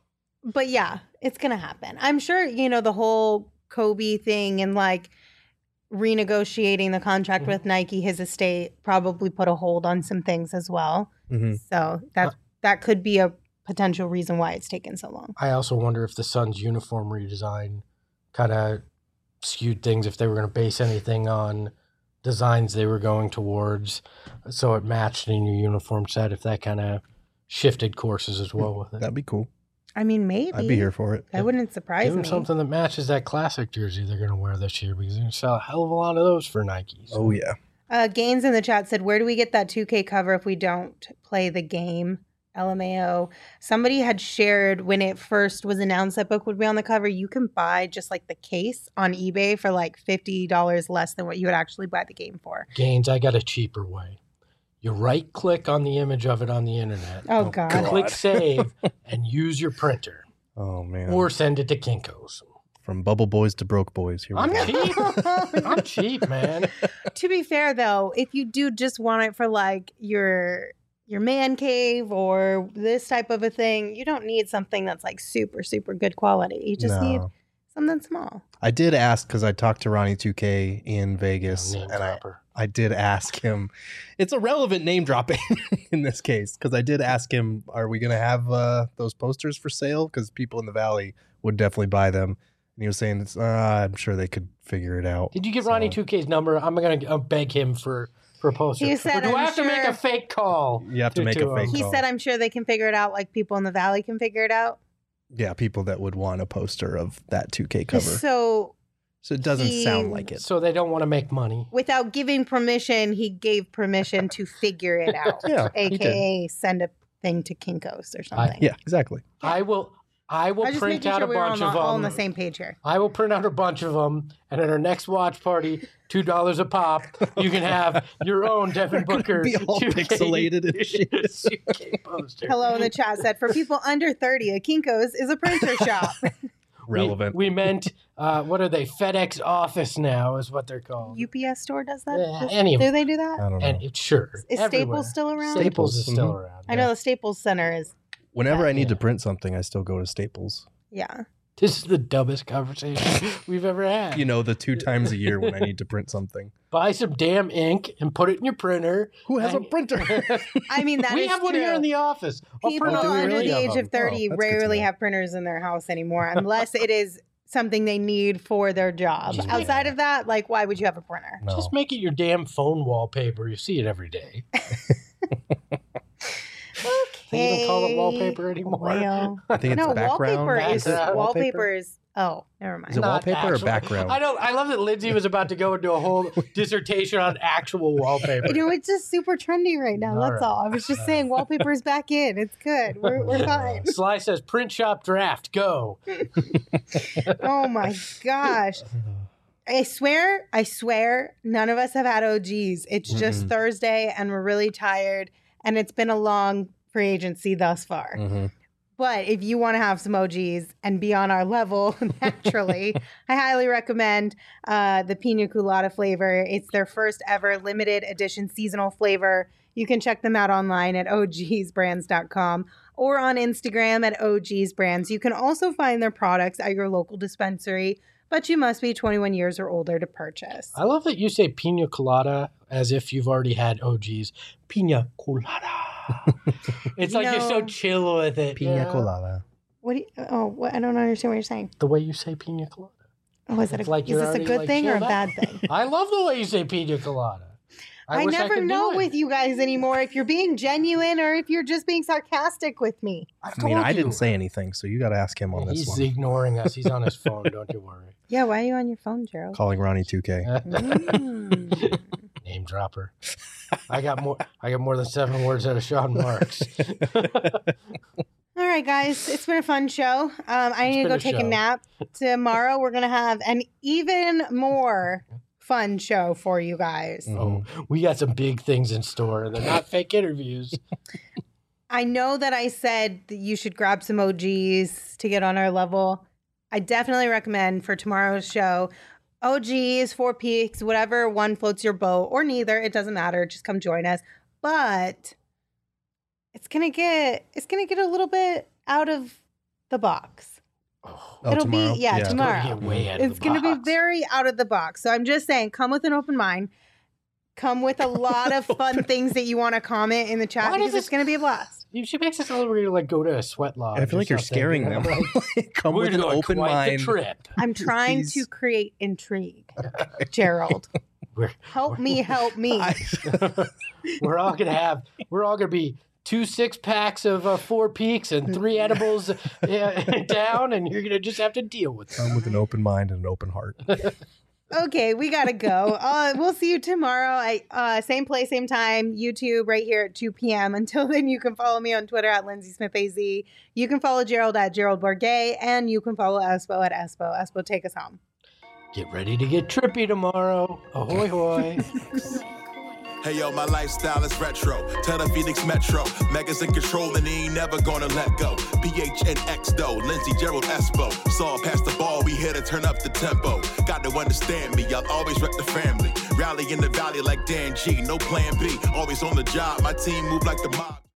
but yeah, it's gonna happen. I'm sure, you know, the whole Kobe thing and like renegotiating the contract Mhm. with Nike, his estate probably put a hold on some things as well. Mhm. So that that could be a potential reason why it's taken so long. I also wonder if the Suns' uniform redesign kind of skewed things, if they were going to base anything on designs they were going towards, so it matched in your uniform set, if that kind of shifted courses as well with it. That'd be cool. I mean, maybe I'd be here for it. That wouldn't surprise Give them me. something that matches that classic jersey they're going to wear this year, because they're going to sell a hell of a lot of those for Nike. So. Oh yeah. Uh, Gaines in the chat said, "Where do we get that two K cover if we don't play the game?" L M A O. Somebody had shared when it first was announced that book would be on the cover. You can buy just like the case on eBay for like fifty dollars less than what you would actually buy the game for. Gaines, I got a cheaper way. You right click on the image of it on the internet. Oh, God. Click save and use your printer, Oh man. or send it to Kinko's. From Bubble Boys to Broke Boys. Here we I'm go. cheap. I'm cheap, man. To be fair, though, if you do just want it for like your your man cave or this type of a thing, you don't need something that's like super super good quality. You just need No. something small. I did ask because I talked to Ronnie two K in Vegas, Name and I, dropper. I did ask him. It's a relevant name dropping in this case because I did ask him, "Are we going to have uh, those posters for sale?" Because people in the Valley would definitely buy them, and he was saying, uh, "I'm sure they could figure it out." Did you get So- Ronnie two K's number? I'm gonna uh, beg him for for a poster. He said, or do I "I'm have to make sure- a fake call? You have to to- make to, a uh, fake He call. said, "I'm sure they can figure it out like people in the Valley can figure it out." Yeah, people that would want a poster of that two K cover. So So it doesn't he- sound like it. So they don't want to make money. without giving permission, he gave permission to figure it out. Yeah, he did. A K A send a thing to Kinko's or I- something. Yeah, exactly. I will. I will I was just print making out sure a we were bunch on, of the, them. all on the same page here. I will print out a bunch of them, and at our next watch party, two dollars a pop, you can have your own Devin Booker Be all two K pixelated and shit. two K poster. Hello in the chat said, for people under thirty, a Kinko's is a printer shop. Relevant. We, we meant, uh, what are they? FedEx Office now is what they're called. U P S store does that? Yeah, Does- any of do them. they do that? I don't know. And it's sure. Is everywhere. Staples still around? Staples is still Mhm. around. I know the Staples Center is, Whenever I need to Yeah. print something, I still go to Staples. yeah. This is the dumbest conversation we've ever had. You know, the two times a year when I need to print something. Buy some damn ink and put it in your printer. Who has a And- printer? I mean, that is we have one true. here in the office. I'll People print do we under really? the three age them. of thirty Oh, that's good to rarely know. have printers in their house anymore unless it is something they need for their job. Just Outside make- of that, like, why would you have a printer? No. Just make it your damn phone wallpaper. You see it every day. They even call it wallpaper anymore. Well, I think it's no, background. wallpaper is Background. wallpaper is. Oh, never mind. Is it Not wallpaper or actual- background? I don't. I love that Lindsay was about to go into a whole dissertation on actual wallpaper. You know, it's just super trendy right now. All That's right. all. I was just saying, wallpaper's back in. It's good. We're, we're fine. Sly says, "Print shop draft, go." Oh my gosh. I swear, I swear, none of us have had O Gs. It's just Mm-mm. Thursday and we're really tired and it's been a long free agency thus far. Mhm. But if you want to have some O Gs and be on our level naturally, I highly recommend uh, the Pina Colada flavor. It's their first ever limited edition seasonal flavor. You can check them out online at o gs brands dot com or on Instagram at O Gs Brands. You can also find their products at your local dispensary, but you must be twenty-one years or older to purchase. I love that you say pina colada as if you've already had O Gs. Pina colada. It's like you're so No. chill with it. Pina yeah. colada. What do you, oh, what, I don't understand what you're saying. The way you say pina colada. Oh, is, it It's a, like is you're this a already, good like, thing or a chilled bad out. thing? I love the way you say pina colada. I, I, wish I never could do know it. with you guys anymore if you're being genuine or if you're just being sarcastic with me. I've I mean, told I you. didn't say anything, so you got to ask him on this He's one. ignoring us. He's on his phone. Don't you worry. Yeah, why are you on your phone, Gerald? Calling Ronnie two K. Mm. Name dropper. I got more. I got more than seven words out of Sean Marks. All right, guys. It's been a fun show. Um, I need to been go a take a show. nap. Tomorrow, we're going to have an even more fun show for you guys. Oh, we got some big things in store, and they're not fake interviews. I know that I said that you should grab some O Gs to get on our level. I definitely recommend for tomorrow's show, O Gs, Four Peaks, whatever one floats your boat, or neither. It doesn't matter. Just come join us. But it's gonna get it's gonna get a little bit out of the box. Oh, Oh, It'll tomorrow? be yeah, Yeah. tomorrow. Get way out of It's the going to be box. very out of the box. So I'm just saying, come with an open mind. Come with a lot of fun things that you want to comment in the chat Why does because it's this- going to be a blast. She makes us all ready to like go to a sweat lodge. I feel or like you're something, scaring you know, them. like, Come we're with an doing open quite mind. The trip. I'm trying Please. to create intrigue, Gerald. We're, Help me, help me. I- we're all gonna have. We're all gonna be two six packs of uh, Four Peaks and three edibles uh, down, and you're gonna just have to deal with them. Come with an open mind and an open heart. Okay, we gotta go. Uh, we'll see you tomorrow. I uh, same place, same time. YouTube right here at two p.m. Until then, you can follow me on Twitter at Lindsay Smith A Z. You can follow Gerald at Gerald Bourget, and you can follow Espo at Espo. Espo, take us home. Get ready to get trippy tomorrow. Ahoy hoy. Hey yo, my lifestyle is retro. Tell the Phoenix Metro. Megas in control and he ain't never gonna let go. P H N X though, Lindsay Gerald Espo. Saw past the ball, we here to turn up the tempo. Got to understand me, I'll always rep the family. Rally in the valley like Dan G, no plan B. Always on the job, my team move like the mob.